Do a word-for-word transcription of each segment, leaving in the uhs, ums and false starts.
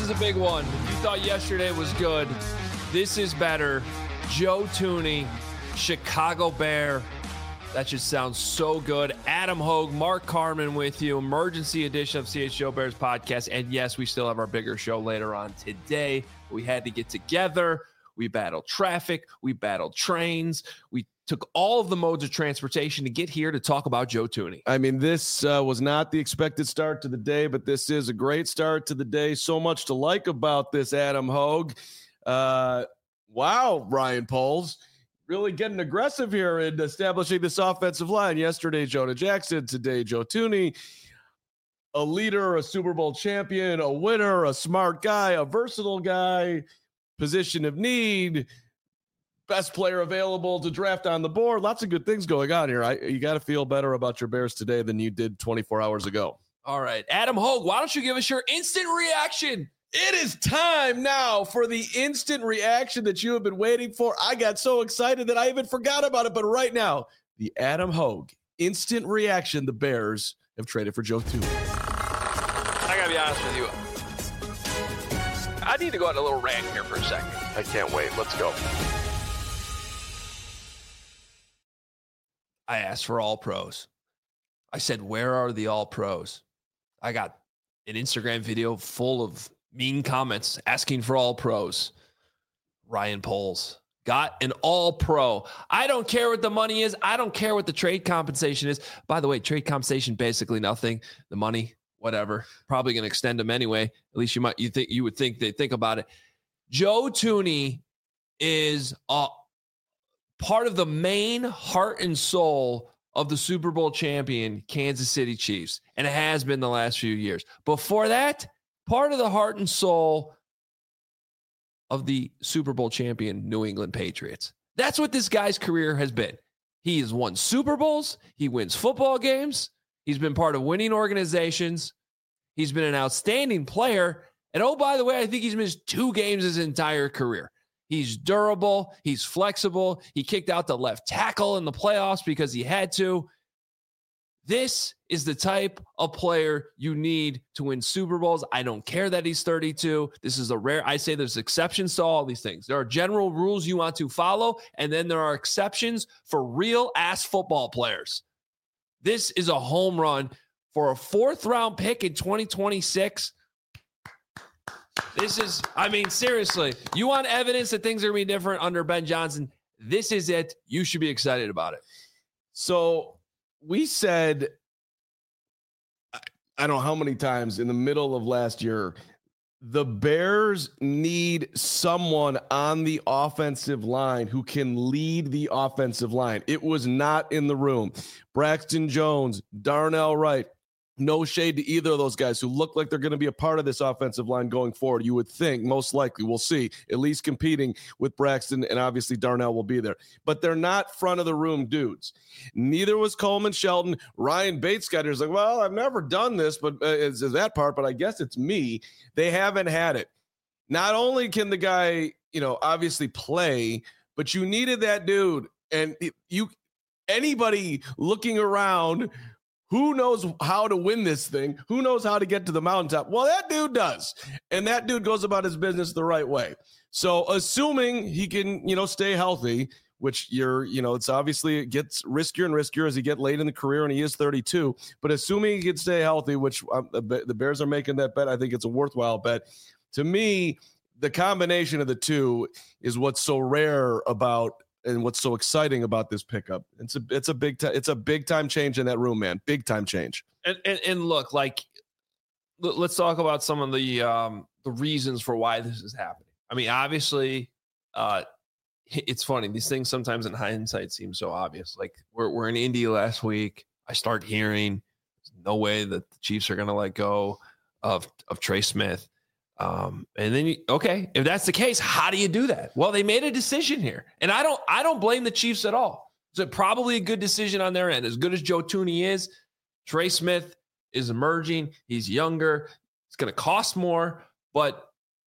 is a big one. If you thought yesterday was good, this is better. Joe Thuney, Chicago Bear. That just sounds so good. Adam Hogue, Mark Carman with you. Emergency edition of C H G O Bears podcast. And yes, we still have our bigger show later on today. We had to get together. We battled traffic. We battled trains. We took all of the modes of transportation to get here to talk about Joe Thuney. I mean, this uh, was not the expected start to the day, but this is a great start to the day. So much to like about this, Adam Hogue. Uh, wow, Ryan Poles. Really getting aggressive here in establishing this offensive line. Yesterday, Jonah Jackson. Today, Joe Thuney. A leader, a Super Bowl champion, a winner, a smart guy, a versatile guy, position of need, best player available to draft on the board. Lots of good things going on here. I, you got to feel better about your Bears today than you did twenty-four hours ago. All right. Adam Hogue, why don't you give us your instant reaction? It is time now for the instant reaction that you have been waiting for. I got so excited that I even forgot about it. But right now, the Adam Hogue instant reaction. The Bears have traded for Joe Thuney. I got to be honest with you. I need to go on a little rant here for a second. I can't wait. Let's go. I asked for all pros. I said, where are the all pros? I got an Instagram video full of mean comments asking for all pros. Ryan Poles got an all pro. I don't care what the money is. I don't care what the trade compensation is. By the way, trade compensation, basically nothing. The money, whatever, probably going to extend them anyway. At least you might, you think you would think they think about it. Joe Thuney is a part of the main heart and soul of the Super Bowl champion Kansas City Chiefs, and it has been the last few years. Before that, part of the heart and soul of the Super Bowl champion New England Patriots. That's what this guy's career has been. He has won Super Bowls. He wins football games. He's been part of winning organizations. He's been an outstanding player. And oh, by the way, I think he's missed two games his entire career. He's durable. He's flexible. He kicked out the left tackle in the playoffs because he had to. This is the type of player you need to win Super Bowls. I don't care that he's thirty-two. This is a rare, I say there's exceptions to all these things. There are general rules you want to follow, and then there are exceptions for real ass football players. This is a home run for a fourth round pick in twenty twenty-six. This is, I mean, seriously, you want evidence that things are going to be different under Ben Johnson? This is it. You should be excited about it. So we said, I don't know how many times in the middle of last year, the Bears need someone on the offensive line who can lead the offensive line. It was not in the room. Braxton Jones, Darnell Wright, no shade to either of those guys who look like they're going to be a part of this offensive line going forward. You would think, most likely, we'll see, at least competing with Braxton, and obviously Darnell will be there. But they're not front of the room dudes. Neither was Coleman Shelton. Ryan Bates got here. He's like, well, I've never done this, but uh, is, is that part, but I guess it's me. They haven't had it. Not only can the guy, you know, obviously play, but you needed that dude. And you, anybody looking around who knows how to win this thing? Who knows how to get to the mountaintop? Well, that dude does. And that dude goes about his business the right way. So assuming he can, you know, stay healthy, which you're, you know, it's obviously it gets riskier and riskier as he get late in the career, and he is thirty-two. But assuming he can stay healthy, which um, the, the Bears are making that bet, I think it's a worthwhile bet. To me, the combination of the two is what's so rare about and what's so exciting about this pickup. It's a it's a big time it's a big time change in that room, man. Big time change. And and, and look, like, let's talk about some of the um, the reasons for why this is happening. I mean, obviously, uh, it's funny. These things sometimes in hindsight seem so obvious. Like we're we're in Indy last week. I start hearing there's no way that the Chiefs are going to let go of of Trey Smith. Um, and then, you, okay, if that's the case, how do you do that? Well, they made a decision here, and I don't, I don't blame the Chiefs at all. It's a, probably a good decision on their end. As good as Joe Thuney is, Trey Smith is emerging. He's younger. It's going to cost more, but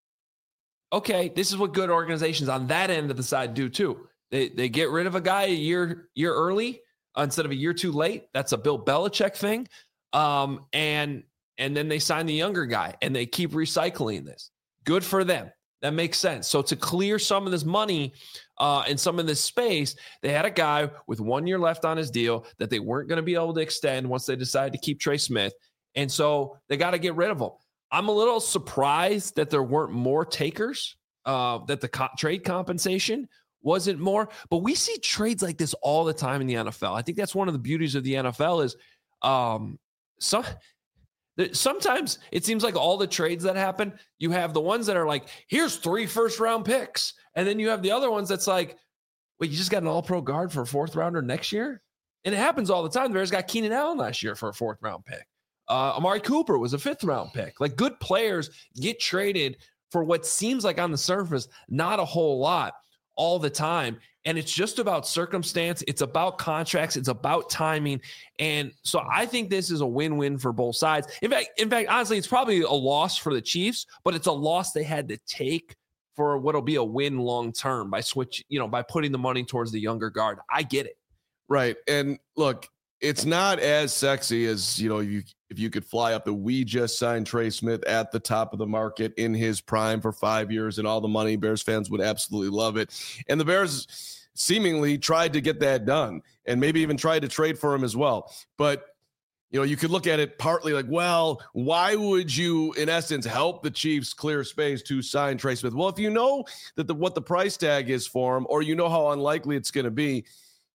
okay, this is what good organizations on that end of the side do too. They they get rid of a guy a year year early instead of a year too late. That's a Bill Belichick thing, um, and. And then they sign the younger guy, and they keep recycling this. Good for them. That makes sense. So to clear some of this money uh, and some of this space, they had a guy with one year left on his deal that they weren't going to be able to extend once they decided to keep Trey Smith. And so they got to get rid of him. I'm a little surprised that there weren't more takers, uh, that the co- trade compensation wasn't more. But we see trades like this all the time in the N F L. I think that's one of the beauties of the N F L is um, some – sometimes it seems like all the trades that happen, you have the ones that are like, here's three first round picks. And then you have the other ones that's like, wait, you just got an all pro guard for a fourth rounder next year? And it happens all the time. The Bears got Keenan Allen last year for a fourth round pick. Uh, Amari Cooper was a fifth round pick. Like good players get traded for what seems like on the surface, not a whole lot all the time. And it's just about circumstance. It's about contracts. It's about timing. And so I think this is a win-win for both sides. In fact, in fact, honestly, it's probably a loss for the Chiefs, but it's a loss they had to take for what'll be a win long-term by switch, you know, by putting the money towards the younger guard. I get it. Right. And look, it's not as sexy as, you know, you if you could fly up the we just signed Trey Smith at the top of the market in his prime for five years and all the money. Bears fans would absolutely love it. And the Bears seemingly tried to get that done and maybe even tried to trade for him as well. But, you know, you could look at it partly like, well, why would you, in essence, help the Chiefs clear space to sign Trey Smith? Well, if you know that the, what the price tag is for him, or you know how unlikely it's going to be,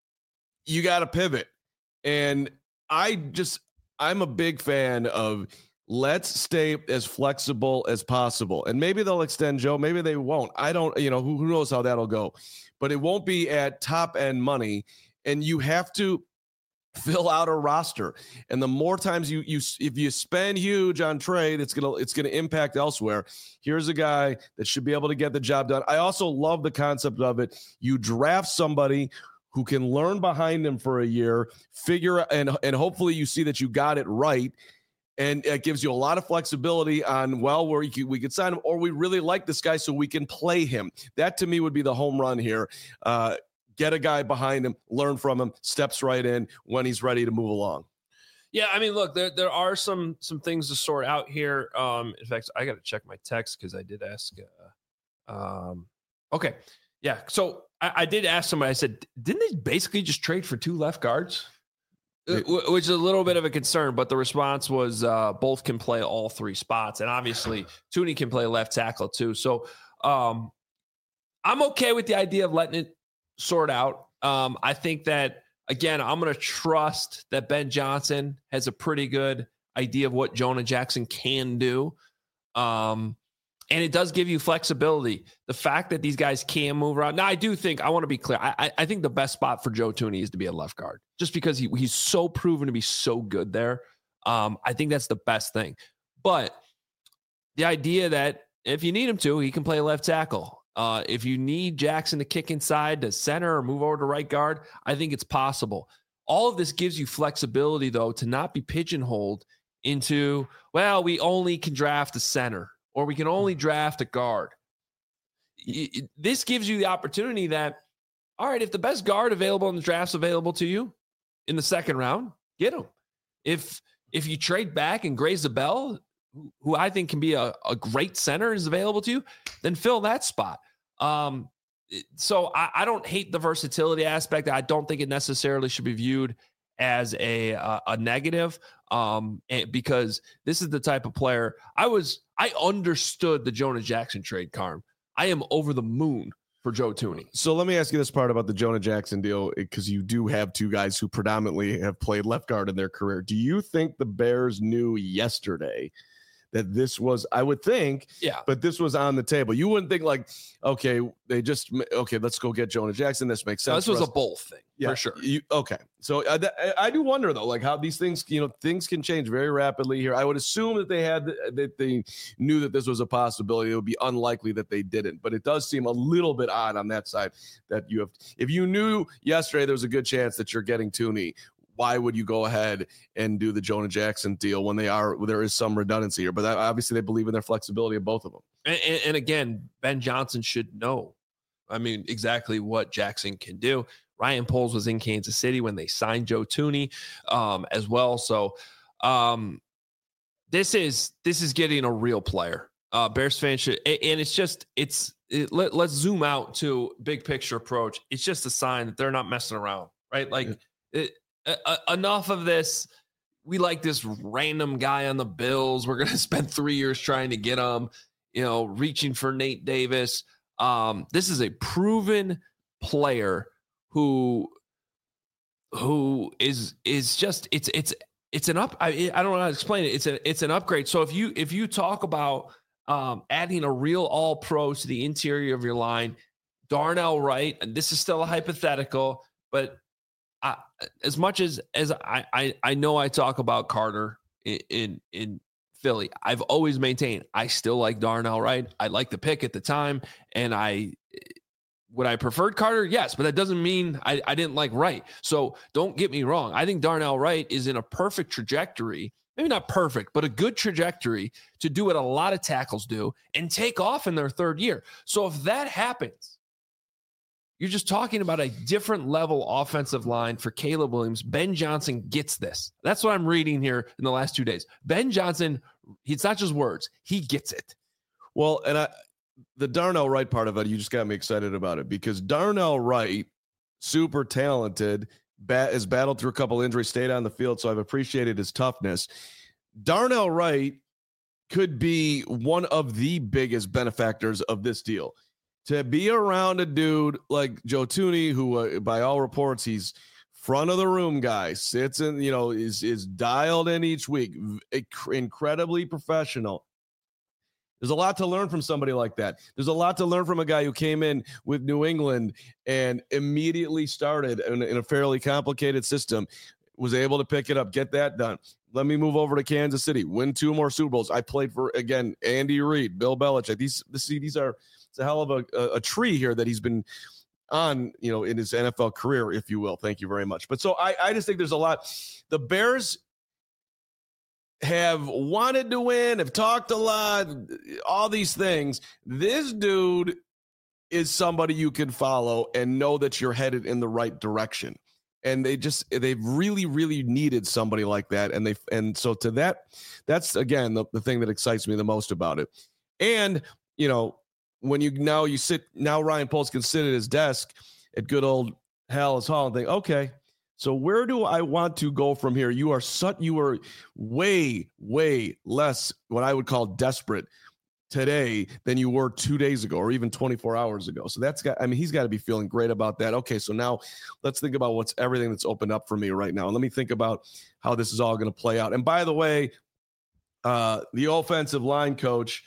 you got to pivot. And I just, I'm a big fan of let's stay as flexible as possible. And maybe they'll extend Joe. Maybe they won't. I don't, you know, who, who knows how that'll go. But it won't be at top end money. And you have to fill out a roster. And the more times you, you if you spend huge on trade, it's going to, it's going to impact elsewhere. Here's a guy that should be able to get the job done. I also love the concept of it. You draft somebody who can learn behind him for a year, figure, and, and hopefully you see that you got it right. And it gives you a lot of flexibility on, well, where you could, we could sign him, or we really like this guy so we can play him. That to me would be the home run here. Uh, get a guy behind him, learn from him, steps right in when he's ready to move along. Yeah, I mean, look, there there are some some things to sort out here. Um, in fact, I got to check my text because I did ask. Uh, um, okay, yeah. So I, I did ask somebody. I said, didn't they basically just trade for two left guards? It, Which is a little bit of a concern, but the response was uh, both can play all three spots, and obviously Thuney can play left tackle too. So um, I'm okay with the idea of letting it sort out. Um, I think that, again, I'm going to trust that Ben Johnson has a pretty good idea of what Jonah Jackson can do. Um, and it does give you flexibility. The fact that these guys can move around. Now, I do think, I want to be clear, I, I think the best spot for Joe Thuney is to be a left guard, just because he, he's so proven to be so good there. Um, I think that's the best thing. But the idea that if you need him to, he can play left tackle. Uh, if you need Jackson to kick inside to center or move over to right guard, I think it's possible. All of this gives you flexibility, though, to not be pigeonholed into, well, we only can draft a center or we can only draft a guard. This gives you the opportunity that, all right, if the best guard available in the draft's available to you in the second round, get him. If if you trade back and Gray Zabel, who I think can be a, a great center, is available to you, then fill that spot. Um, so I, I don't hate the versatility aspect. I don't think it necessarily should be viewed as a a, a negative, um, because this is the type of player I was. I understood the Jonah Jackson trade, Carm. I am over the moon for Joe Thuney. So let me ask you this part about the Jonah Jackson deal, because you do have two guys who predominantly have played left guard in their career. Do you think the Bears knew yesterday that this was, I would think, yeah, but this was on the table? You wouldn't think like, okay, they just, okay, let's go get Jonah Jackson. This makes sense. No, this was us. a both thing, yeah, for sure. You, okay. So I, I do wonder though, like how these things, you know, things can change very rapidly here. I would assume that they had, that they knew that this was a possibility. It would be unlikely that they didn't, but it does seem a little bit odd on that side that you have, if you knew yesterday, there was a good chance that you're getting Thuney, why would you go ahead and do the Jonah Jackson deal when they are, there is some redundancy here, but that, obviously they believe in their flexibility of both of them. And, and, and again, Ben Johnson should know, I mean, exactly what Jackson can do. Ryan Poles was in Kansas City when they signed Joe Thuney um, as well. So um, this is, this is getting a real player. Uh, Bears fans should, and it's just it's it, let, let's zoom out to big picture approach. It's just a sign that they're not messing around, right? Like yeah. it, uh, enough of this. We like this random guy on the Bills. We're going to spend three years trying to get him, you know, reaching for Nate Davis. Um, this is a proven player who, who is, is just, it's, it's, it's an up. I, I don't know how to explain it. It's a, it's an upgrade. So if you, if you talk about um, adding a real all pro to the interior of your line, Darnell Wright, and this is still a hypothetical, but I, as much as as I, I I know I talk about Carter in, in in Philly, I've always maintained I still like Darnell Wright. I like the pick at the time, and I would I preferred Carter, yes, but that doesn't mean I, I didn't like Wright. So don't get me wrong. I think Darnell Wright is in a perfect trajectory, maybe not perfect, but a good trajectory to do what a lot of tackles do and take off in their third year. So if that happens, you're just talking about a different level offensive line for Caleb Williams. Ben Johnson gets this. That's what I'm reading here in the last two days. Ben Johnson, it's not just words. He gets it. Well, and I, the Darnell Wright part of it, you just got me excited about it because Darnell Wright, super talented, bat, has battled through a couple injuries, stayed on the field, so I've appreciated his toughness. Darnell Wright could be one of the biggest benefactors of this deal. To be around a dude like Joe Thuney, who uh, by all reports, he's front of the room guy, sits in, you know, is, is dialed in each week, incredibly professional. There's a lot to learn from somebody like that. There's a lot to learn from a guy who came in with New England and immediately started in, in a fairly complicated system, was able to pick it up, get that done. Let me move over to Kansas City, win two more Super Bowls. I played for, again, Andy Reid, Bill Belichick. These, see, these are, it's a hell of a, a tree here that he's been on, you know, in his N F L career, if you will. Thank you very much. But so I, I just think there's a lot. The Bears have wanted to win, have talked a lot, all these things. This dude is somebody you can follow and know that you're headed in the right direction. And they just, they've really, really needed somebody like that. And they, and so to that, that's again, the, the thing that excites me the most about it. And, you know, when you now you sit, now Ryan Poles can sit at his desk at good old Halas Hall and think, okay, so where do I want to go from here? You are such, you are way, way less what I would call desperate today than you were two days ago or even twenty-four hours ago. So that's got, I mean, he's got to be feeling great about that. Okay, so now let's think about what's everything that's opened up for me right now. And let me think about how this is all going to play out. And by the way, uh, the offensive line coach,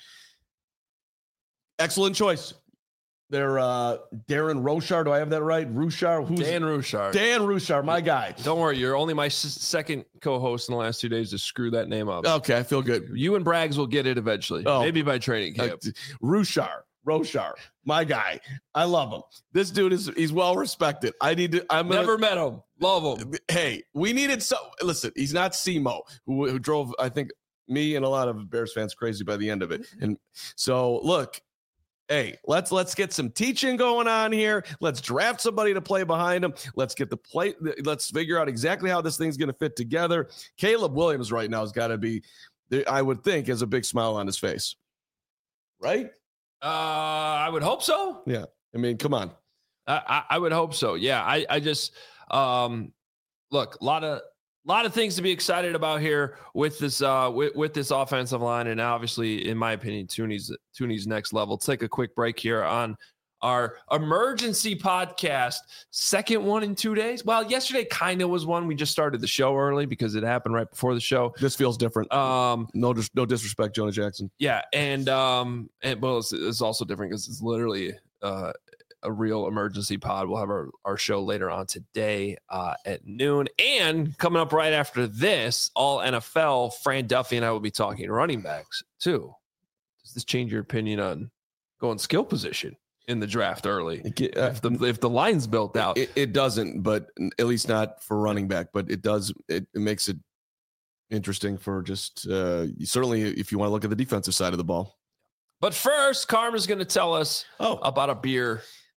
excellent choice. They're uh, Darren Roushar. Do I have that right? Roushar? Who's Dan Roushar. Dan Roushar, my guy. Don't worry. You're only my s- second co-host in the last two days to screw that name up. Okay, I feel good. You and Braggs will get it eventually. Oh, maybe by training camp. Uh, Roushar. Roushar, my guy. I love him. This dude is he's well respected. I need to. I'm never gonna, met him. Love him. Hey, we needed so. Listen, he's not Simo, who, who drove, I think, me and a lot of Bears fans crazy by the end of it. And so, look. Hey, let's let's get some teaching going on here. Let's draft somebody to play behind him. Let's get the play. Let's figure out exactly how this thing's going to fit together. Caleb Williams right now has got to be, I would think, has a big smile on his face, right? Uh, I would hope so. Yeah, I mean, come on. I, I, I would hope so. Yeah, I I just um, look a lot of. A lot of things to be excited about here with this uh, with, with this offensive line, and obviously, in my opinion, Thuney's Thuney's next level. Let's take a quick break here on our emergency podcast, second one in two days. Well, yesterday kind of was one. We just started the show early because it happened right before the show. This feels different. Um, no, dis- no disrespect, Jonah Jackson. Yeah, and um, and well, it's, it's also different because it's literally uh. a real emergency pod. We'll have our, our show later on today uh, at noon. And coming up right after this, all N F L, Fran Duffy and I will be talking running backs too. Does this change your opinion on going skill position in the draft early? It, uh, if the if the line's built out? It, it doesn't, but at least not for running back, but it does. It, it makes it interesting for just uh, certainly if you want to look at the defensive side of the ball. But first, Karma's going to tell us oh. about a beer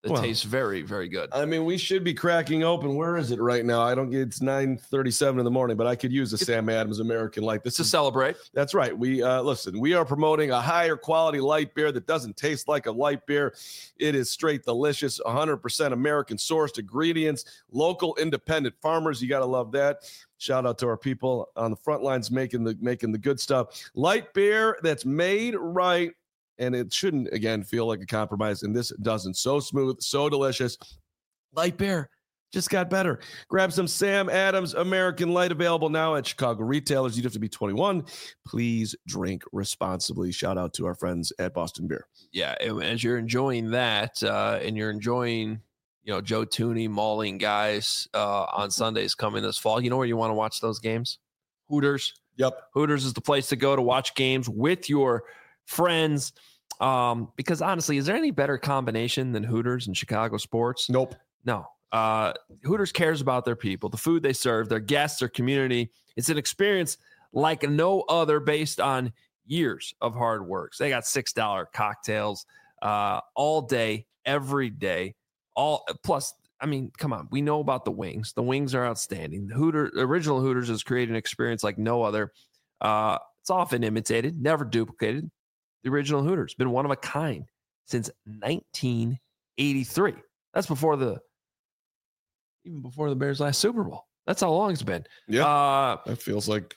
that Well, tastes very, very good. I mean, we should be cracking open. Where is it right now? I don't get it's nine thirty-seven in the morning, but I could use a Sam Adams American Light. This To is celebrate. That's right. We uh, listen, we are promoting a higher quality light beer that doesn't taste like a light beer. It is straight delicious, one hundred percent American sourced ingredients, local independent farmers. You got to love that. Shout out to our people on the front lines making the making the good stuff. Light beer that's made right. And it shouldn't, again, feel like a compromise. And this doesn't. So smooth, so delicious. Light beer just got better. Grab some Sam Adams American Light, available now at Chicago retailers. You have to be twenty-one. Please drink responsibly. Shout out to our friends at Boston Beer. Yeah, and as you're enjoying that, uh, and you're enjoying, you know, Joe Thuney mauling guys uh, on Sundays coming this fall, you know where you want to watch those games? Hooters. Yep. Hooters is the place to go to watch games with your friends. Um, because honestly, is there any better combination than Hooters and Chicago sports? Nope. No. Uh, Hooters cares about their people, the food they serve, their guests, their community. It's an experience like no other based on years of hard work. So they got six dollar cocktails uh, all day, every day. All plus, I mean, come on. We know about the wings. The wings are outstanding. The Hooter, original Hooters has created an experience like no other. Uh, it's often imitated, never duplicated. The original Hooters, been one of a kind since nineteen eighty-three. That's before the, even before the Bears' last Super Bowl. That's how long it's been. Yeah. Uh, that feels like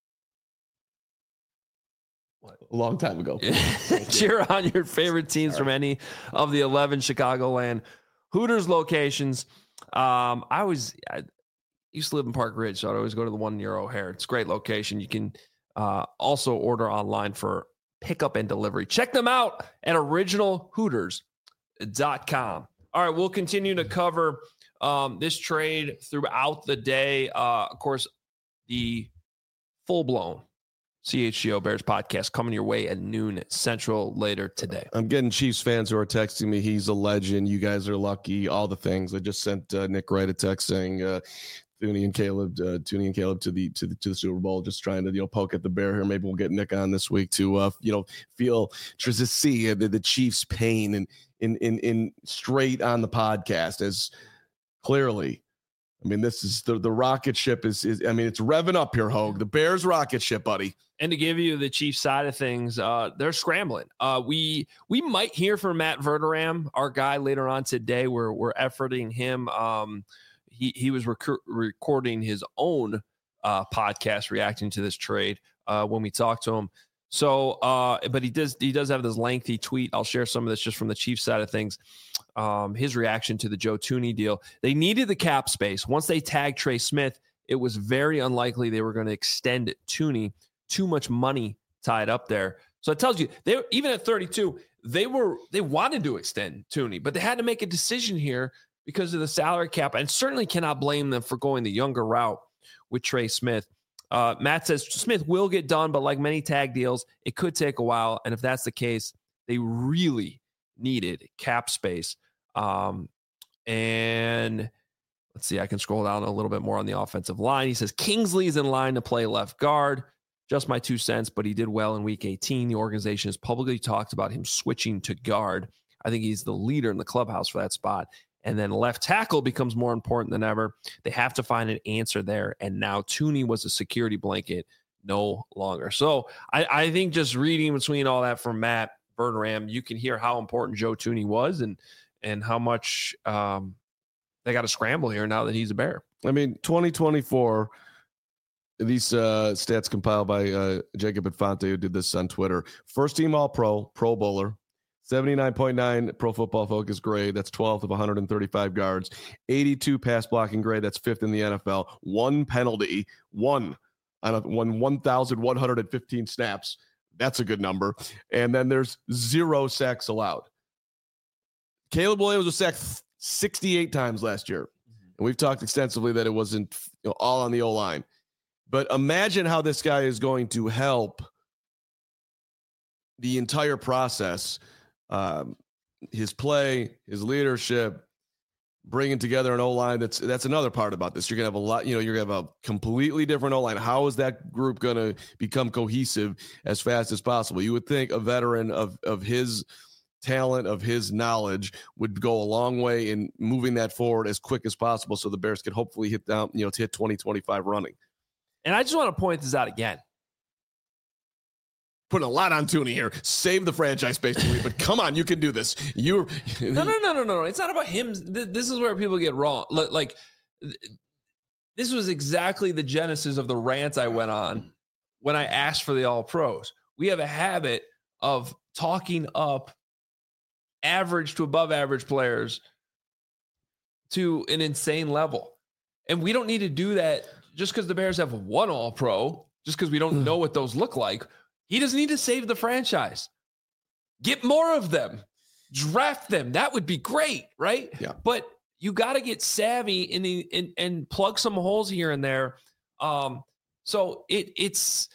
a long time ago. Cheer on your favorite teams right. from any of the eleven Chicagoland Hooters locations. Um, I was, I used to live in Park Ridge, so I'd always go to the one near O'Hare. It's a great location. You can uh, also order online for pickup and delivery. Check them out at original hooters dot com. All right, we'll continue to cover um, this trade throughout the day. Uh, of course, the full-blown C H G O Bears podcast coming your way at noon Central later today. I'm getting Chiefs fans who are texting me. He's a legend. You guys are lucky. All the things. I just sent uh, Nick Wright a text saying, uh, Thuney and Caleb, uh, Thuney and Caleb to the to the to the Super Bowl. Just trying to you know poke at the bear here. Maybe we'll get Nick on this week to uh, you know feel just to see the, the Chiefs' pain and in in in straight on the podcast as clearly. I mean, this is the the rocket ship is is. I mean, it's revving up here, Hogue. The Bears rocket ship, buddy. And to give you the Chiefs side of things, uh, they're scrambling. Uh, we we might hear from Matt Verderam, our guy, later on today. We're we're efforting him. Um, He he was rec- recording his own uh, podcast reacting to this trade uh, when we talked to him. So, uh, but he does he does have this lengthy tweet. I'll share some of this just from the Chiefs side of things. Um, his reaction to the Joe Thuney deal. They needed the cap space. Once they tagged Trey Smith, it was very unlikely they were going to extend Thuney. Too much money tied up there. So it tells you they even at thirty-two, they were they wanted to extend Thuney, but they had to make a decision here because of the salary cap, and certainly cannot blame them for going the younger route with Trey Smith. Uh, Matt says Smith will get done, but like many tag deals, it could take a while. And if that's the case, they really needed cap space. Um, and let's see, I can scroll down a little bit more on the offensive line. He says Kingsley is in line to play left guard. Just my two cents, but he did well in week eighteen. The organization has publicly talked about him switching to guard. I think he's the leader in the clubhouse for that spot. And then left tackle becomes more important than ever. They have to find an answer there. And now Thuney was a security blanket no longer. So I, I think just reading between all that from Matt Verderam, you can hear how important Joe Thuney was and and how much um, they got to scramble here now that he's a Bear. I mean, twenty twenty-four, these uh, stats compiled by uh, Jacob Infante, who did this on Twitter. First team All-Pro, Pro Bowler. seventy-nine point nine Pro Football Focus grade. That's twelfth of one hundred thirty-five guards. eighty-two pass blocking grade. That's fifth in the N F L. One penalty. One on a, one one thousand one hundred fifteen snaps. That's a good number. And then there's zero sacks allowed. Caleb Williams was sacked sixty-eight times last year. And we've talked extensively that it wasn't you know, all on the O-line. But imagine how this guy is going to help the entire process. Um, his play, his leadership, bringing together an O-line. That's that's another part about this. You're gonna have a lot. You know, you're gonna have a completely different O-line. How is that group gonna become cohesive as fast as possible? You would think a veteran of of his talent, of his knowledge would go a long way in moving that forward as quick as possible so the Bears could hopefully hit down, you know, to hit twenty twenty-five running. And I just want to point this out again. Putting a lot on Tooney here. Save the franchise, basically. But come on, you can do this. You no, no, no, no, no. It's not about him. This is where people get wrong. Like, this was exactly the genesis of the rant I went on when I asked for the All-Pros. We have a habit of talking up average to above average players to an insane level. And we don't need to do that just because the Bears have one All-Pro, just because we don't know what those look like. He doesn't need to save the franchise. Get more of them. Draft them. That would be great, right? Yeah. But you got to get savvy in the, in, and plug some holes here and there. Um, so it it's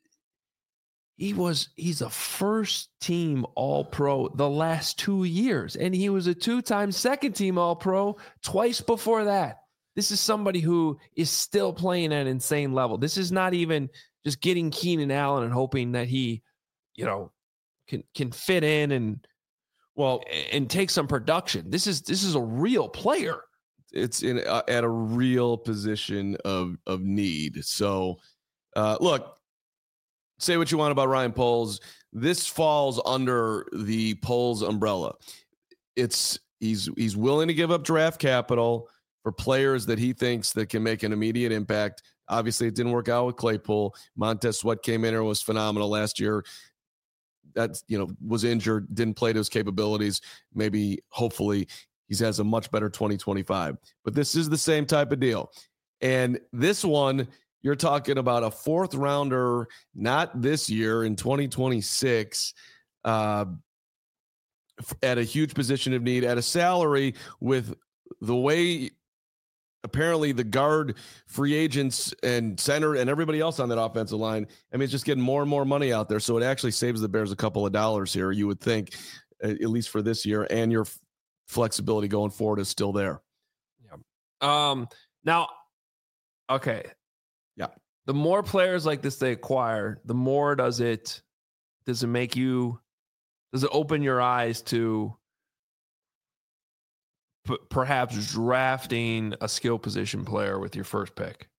he was he's a first team All-Pro the last two years, and he was a two-time second team All-Pro twice before that. This is somebody who is still playing at an insane level. This is not even just getting Keenan Allen and hoping that he, you know, can can fit in and well and take some production. This is this is a real player. It's in uh, at a real position of of need. So, uh, look, say what you want about Ryan Poles. This falls under the Poles umbrella. It's he's he's willing to give up draft capital for players that he thinks that can make an immediate impact. Obviously, it didn't work out with Claypool. Montez Sweat came in and was phenomenal last year. That, you know, was injured, didn't play to his capabilities. Maybe, hopefully, he has a much better twenty twenty-five. But this is the same type of deal. And this one, you're talking about a fourth rounder, not this year, in twenty twenty-six, uh, at a huge position of need, at a salary with the way apparently the guard free agents and center and everybody else on that offensive line. I mean, it's just getting more and more money out there. So it actually saves the Bears a couple of dollars here, you would think, at least for this year, and your flexibility going forward is still there. Yeah. Um, now, okay. Yeah. The more players like this they acquire, the more does it, does it make you, does it open your eyes to perhaps drafting a skill position player with your first pick?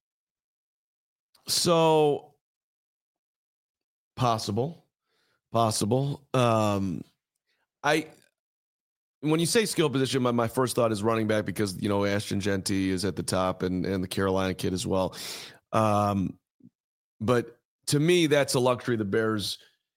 So possible, possible. Um, I, when you say skill position, my, my first thought is running back because, you know, Ashton Jeanty is at the top and, and the Carolina kid as well. Um, but to me, that's a luxury the Bears,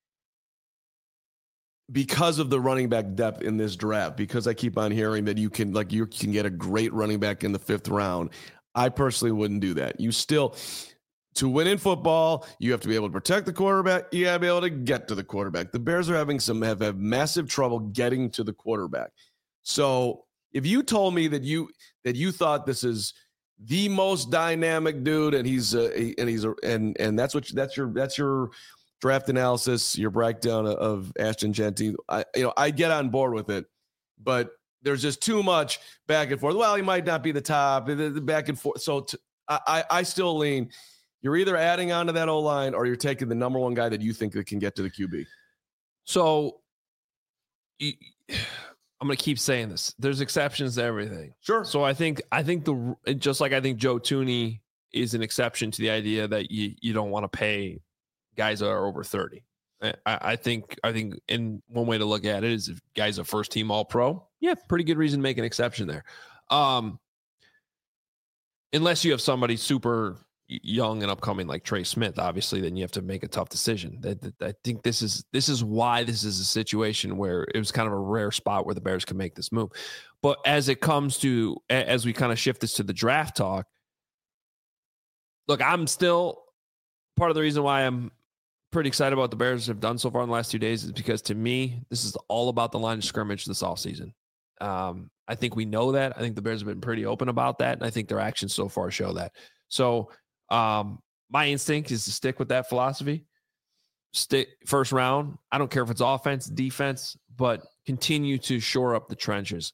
because of the running back depth in this draft, because I keep on hearing that you can, like, you can get a great running back in the fifth round. I personally wouldn't do that. You still, to win in football, you have to be able to protect the quarterback. You got to be able to get to the quarterback. The Bears are having some, have, have massive trouble getting to the quarterback. So if you told me that you, that you thought this is the most dynamic dude and he's, uh, he, and he's, a, and, and that's what, that's your, that's your, draft analysis, your breakdown of Ashton Jeanty, I, you know, I get on board with it, but there's just too much back and forth. Well, he might not be the top, the, the back and forth. So t- I, I still lean, you're either adding on to that O-line or you're taking the number one guy that you think that can get to the Q B. So I'm going to keep saying this. There's exceptions to everything. Sure. So I think, I think the, just like I think Joe Tooney is an exception to the idea that you, you don't want to pay guys that are over thirty. I, I think, I think in one way to look at it is if guys are first team all pro, yeah, pretty good reason to make an exception there. Um, unless you have somebody super young and upcoming like Trey Smith, obviously, then you have to make a tough decision. That, that I think this is, this is why this is a situation where it was kind of a rare spot where the Bears could make this move. But as it comes to, as we kind of shift this to the draft talk, look, I'm still part of the reason why I'm pretty excited about what the Bears have done so far in the last two days is because to me, this is all about the line of scrimmage this offseason. Um, I think we know that. I think the Bears have been pretty open about that. And I think their actions so far show that. So um, my instinct is to stick with that philosophy. Stick first round. I don't care if it's offense, defense, but continue to shore up the trenches.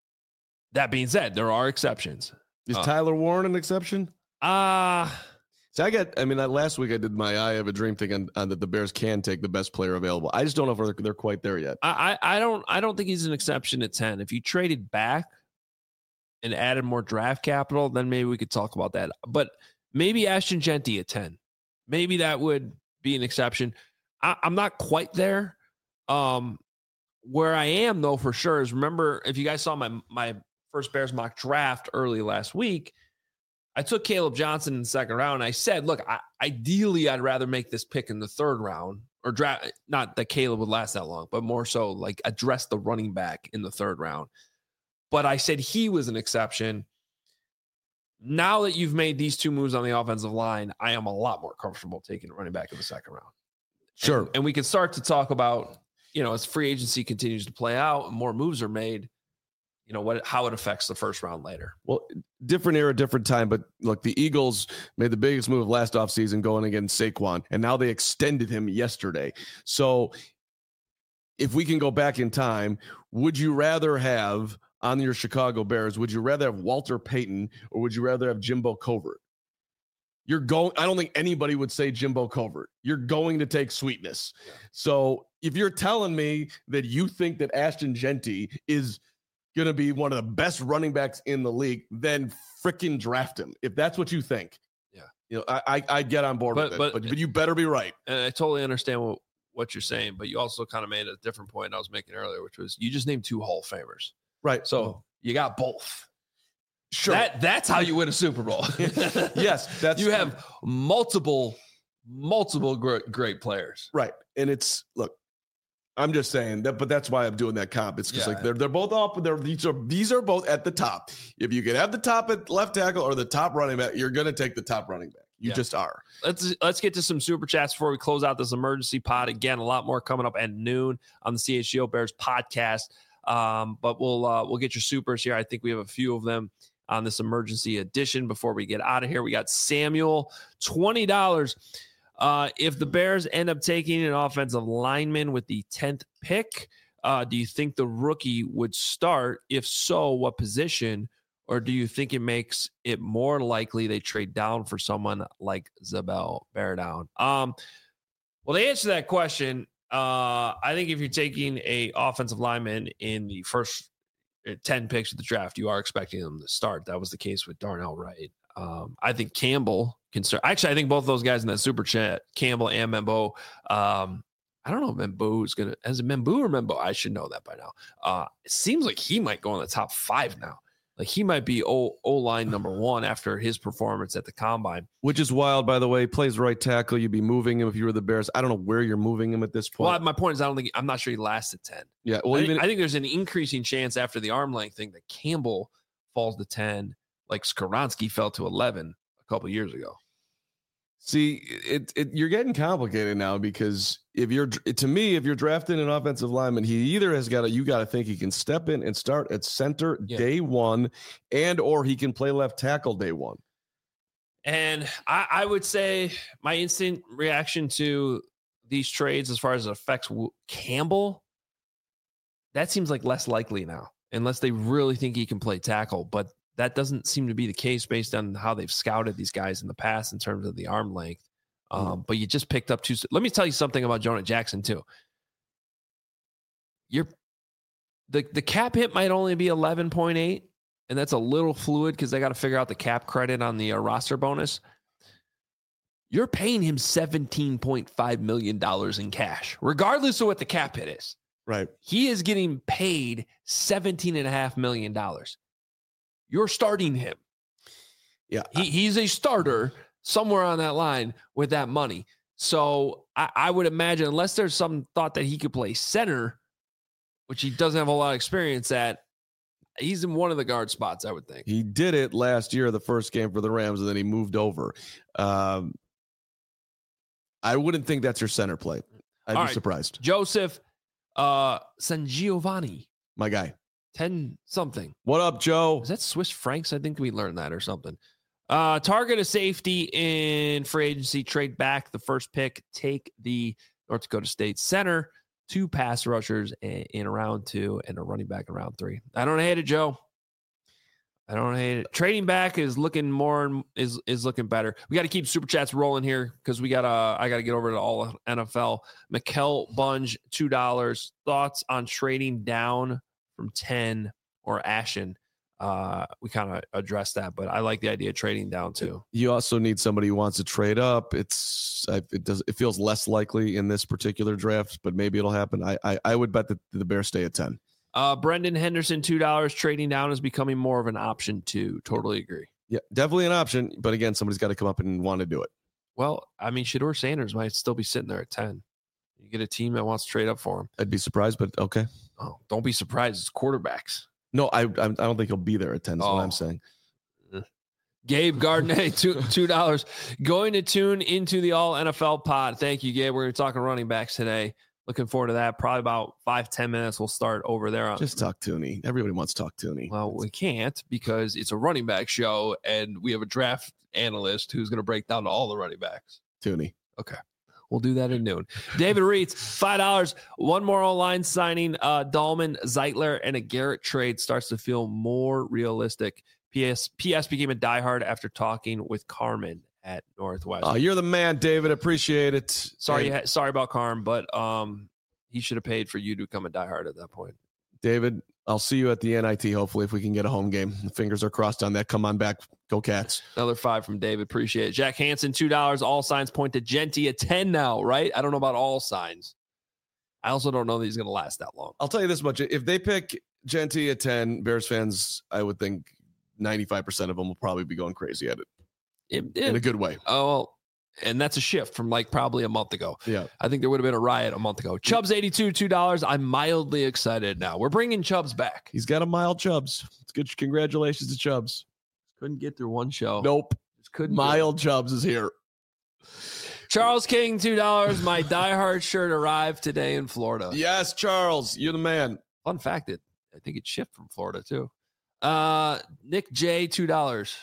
That being said, there are exceptions. Is uh, Tyler Warren an exception? Ah, uh, So I got, I mean, that last week I did my I Have a Dream thing on, on that the Bears can take the best player available. I just don't know if they're, they're quite there yet. I, I I don't I don't think he's an exception at ten. If you traded back and added more draft capital, then maybe we could talk about that. But maybe Ashton Jeanty at ten. Maybe that would be an exception. I, I'm not quite there. Um, where I am, though, for sure, is remember, if you guys saw my my first Bears mock draft early last week, I took Caleb Johnson in the second round. And I said, look, I, ideally, I'd rather make this pick in the third round or draft. Not that Caleb would last that long, but more so like address the running back in the third round. But I said he was an exception. Now that you've made these two moves on the offensive line, I am a lot more comfortable taking a running back in the second round. Sure. And, and we can start to talk about, you know, as free agency continues to play out and more moves are made, you know, what, how it affects the first round later. Well, different era, different time. But look, the Eagles made the biggest move last offseason going against Saquon, and now they extended him yesterday. So if we can go back in time, would you rather have on your Chicago Bears, would you rather have Walter Payton or would you rather have Jimbo Covert? You're going, I don't think anybody would say Jimbo Covert. You're going to take Sweetness. Yeah. So if you're telling me that you think that Ashton Jeanty is going to be one of the best running backs in the league, then freaking draft him. If that's what you think, yeah, you know, I I I'd get on board but, with it, but, but, but you better be right. And I totally understand what, what you're saying, but you also kind of made a different point I was making earlier, which was you just named two Hall of Famers. Right. So you got both. Sure. That, that's how you win a Super Bowl. Yes. That's you have multiple, multiple great, great players. Right. And it's, look, I'm just saying that, but that's why I'm doing that comp. It's just yeah. like they're they're both up. They're these are these are both at the top. If you can have the top at left tackle or the top running back, you're going to take the top running back. You yeah. just are. Let's let's get to some super chats before we close out this emergency pod. Again, a lot more coming up at noon on the C H G O Bears podcast. Um, but we'll uh, we'll get your supers here. I think we have a few of them on this emergency edition before we get out of here. We got Samuel, twenty dollars. Uh, if the Bears end up taking an offensive lineman with the tenth pick, uh, do you think the rookie would start? If so, what position? Or do you think it makes it more likely they trade down for someone like Zabel Bear down? Um, well, to answer that question, uh, I think if you're taking a offensive lineman in the first ten picks of the draft, you are expecting them to start. That was the case with Darnell Wright. Um, I think Campbell can start. Actually, I think both of those guys in that super chat, Campbell and Membo. Um, I don't know if Membo is going to, as a Membo or Membo, I should know that by now. Uh, it seems like he might go in the top five now. Like he might be O line number one after his performance at the combine, which is wild, by the way. Plays right tackle. You'd be moving him if you were the Bears. I don't know where you're moving him at this point. Well, my point is, I don't think I'm not sure he lasts at ten. Yeah, well, I, even think, I think there's an increasing chance after the arm length thing that Campbell falls to ten, like Skoronski fell to eleven a couple years ago. See, it, it you're getting complicated now because if you're to me, if you're drafting an offensive lineman, he either has got to you got to think he can step in and start at center yeah. day one, and or he can play left tackle day one. And I, I would say my instant reaction to these trades, as far as it affects Campbell, that seems like less likely now, unless they really think he can play tackle. But that doesn't seem to be the case based on how they've scouted these guys in the past in terms of the arm length. Um, mm. But you just picked up two. Let me tell you something about Jonah Jackson too. You're the the cap hit might only be eleven point eight, and that's a little fluid because they got to figure out the cap credit on the uh, roster bonus. You're paying him seventeen point five million dollars in cash, regardless of what the cap hit is. Right. He is getting paid seventeen and a half million dollars. You're starting him. Yeah. He, he's a starter somewhere on that line with that money. So I, I would imagine, unless there's some thought that he could play center, which he doesn't have a lot of experience at, he's in one of the guard spots, I would think. He did it last year, the first game for the Rams, and then he moved over. Um, I wouldn't think that's your center play. I'd All be right. surprised. Joseph uh, San Giovanni. My guy. ten something. What up, Joe? Is that Swiss francs? I think we learned that or something. Uh, target a safety in free agency, trade back the first pick, take the North Dakota State center, two pass rushers in round two, and a running back in round three. I don't hate it, Joe. I don't hate it. Trading back is looking more and is is looking better. We got to keep super chats rolling here because we got to. I got to get over to all N F L. Mikkel Bunge, two dollars. Thoughts on trading down from ten or Ashen? Uh, we kind of addressed that, but I like the idea of trading down too. You also need somebody who wants to trade up. It's it does it feels less likely in this particular draft, but maybe it'll happen. I I, I would bet that the Bears stay at ten. Uh, Brendan Henderson, two dollars. Trading down is becoming more of an option too. Totally agree. Yeah, definitely an option. But again, somebody's got to come up and want to do it. Well, I mean, Shedeur Sanders might still be sitting there at ten. You get a team that wants to trade up for him. I'd be surprised, but okay. Oh, don't be surprised. It's quarterbacks. No, I I don't think he'll be there at ten. Is oh. what I'm saying. Gabe Gardner, two two dollars. Going to tune into the All N F L pod. Thank you, Gabe. We're going to talk running backs today. Looking forward to that. Probably about five, ten minutes. We'll start over there. On, Just talk Tooney. Everybody wants to talk Tooney. Well, we can't because it's a running back show, and we have a draft analyst who's going to break down all the running backs. Tooney. Okay. We'll do that at noon. David Reitz, five dollars. One more online signing. Uh, Dahlman, Zeitler, and a Garrett trade starts to feel more realistic. P S P S became a diehard after talking with Carmen at Northwest. Oh, you're the man, David. Appreciate it. Sorry, and, sorry about Carm, but um, he should have paid for you to become a diehard at that point. David, I'll see you at the N I T, hopefully, if we can get a home game. The fingers are crossed on that. Come on back. Go Cats. Another five from David. Appreciate it. Jack Hansen, two dollars. All signs point to Genty at ten now, right? I don't know about all signs. I also don't know that he's going to last that long. I'll tell you this much. If they pick Genty at ten, Bears fans, I would think ninety-five percent of them will probably be going crazy at it. It, it, in a good way. Oh, and that's a shift from like probably a month ago. Yeah. I think there would have been a riot a month ago. Chubbs eighty-two, two dollars. I'm mildly excited now. We're bringing Chubbs back. He's got a mild Chubbs. It's good. Congratulations to Chubbs. Couldn't get through one show. Nope. Just couldn't. Mild Chubbs is here. Charles King, two dollars. My diehard shirt arrived today in Florida. Yes, Charles. You're the man. Fun fact, it I think it shipped from Florida too. Uh, Nick J, two dollars.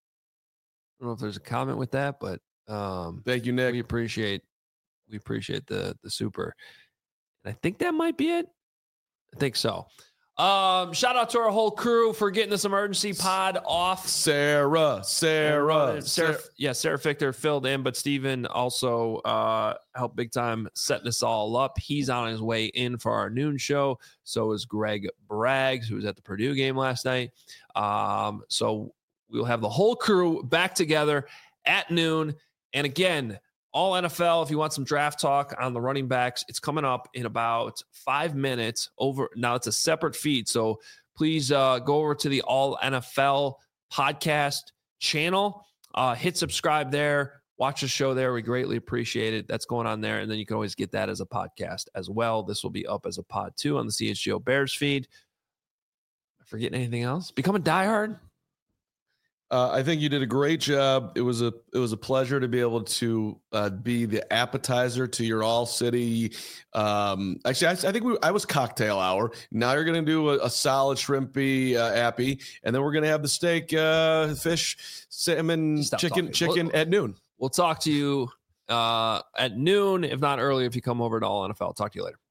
I don't know if there's a comment with that, but um, thank you, Nick. We appreciate we appreciate the the super. And I think that might be it. I think so. Um, shout out to our whole crew for getting this emergency pod off. Sarah, Sarah, Sarah, Sarah yeah, Sarah Fichter filled in, but Steven also uh, helped big time setting us all up. He's on his way in for our noon show. So is Greg Braggs, who was at the Purdue game last night. Um, so we'll have the whole crew back together at noon. And again, all N F L, if you want some draft talk on the running backs, it's coming up in about five minutes over. Now it's a separate feed. So please uh, go over to the All N F L podcast channel, uh, hit subscribe there, watch the show there. We greatly appreciate it. That's going on there. And then you can always get that as a podcast as well. This will be up as a pod too on the C H G O Bears feed. Am I forgetting anything else? Become a diehard. Uh, I think you did a great job. It was a it was a pleasure to be able to uh, be the appetizer to your all city. Um, actually, I, I think we, I was cocktail hour. Now you're going to do a, a solid shrimpy uh, appy, and then we're going to have the steak, uh, fish, salmon, Stop chicken, talking. chicken We'll- at noon. We'll talk to you uh, at noon, if not earlier, if you come over to All N F L. Talk to you later.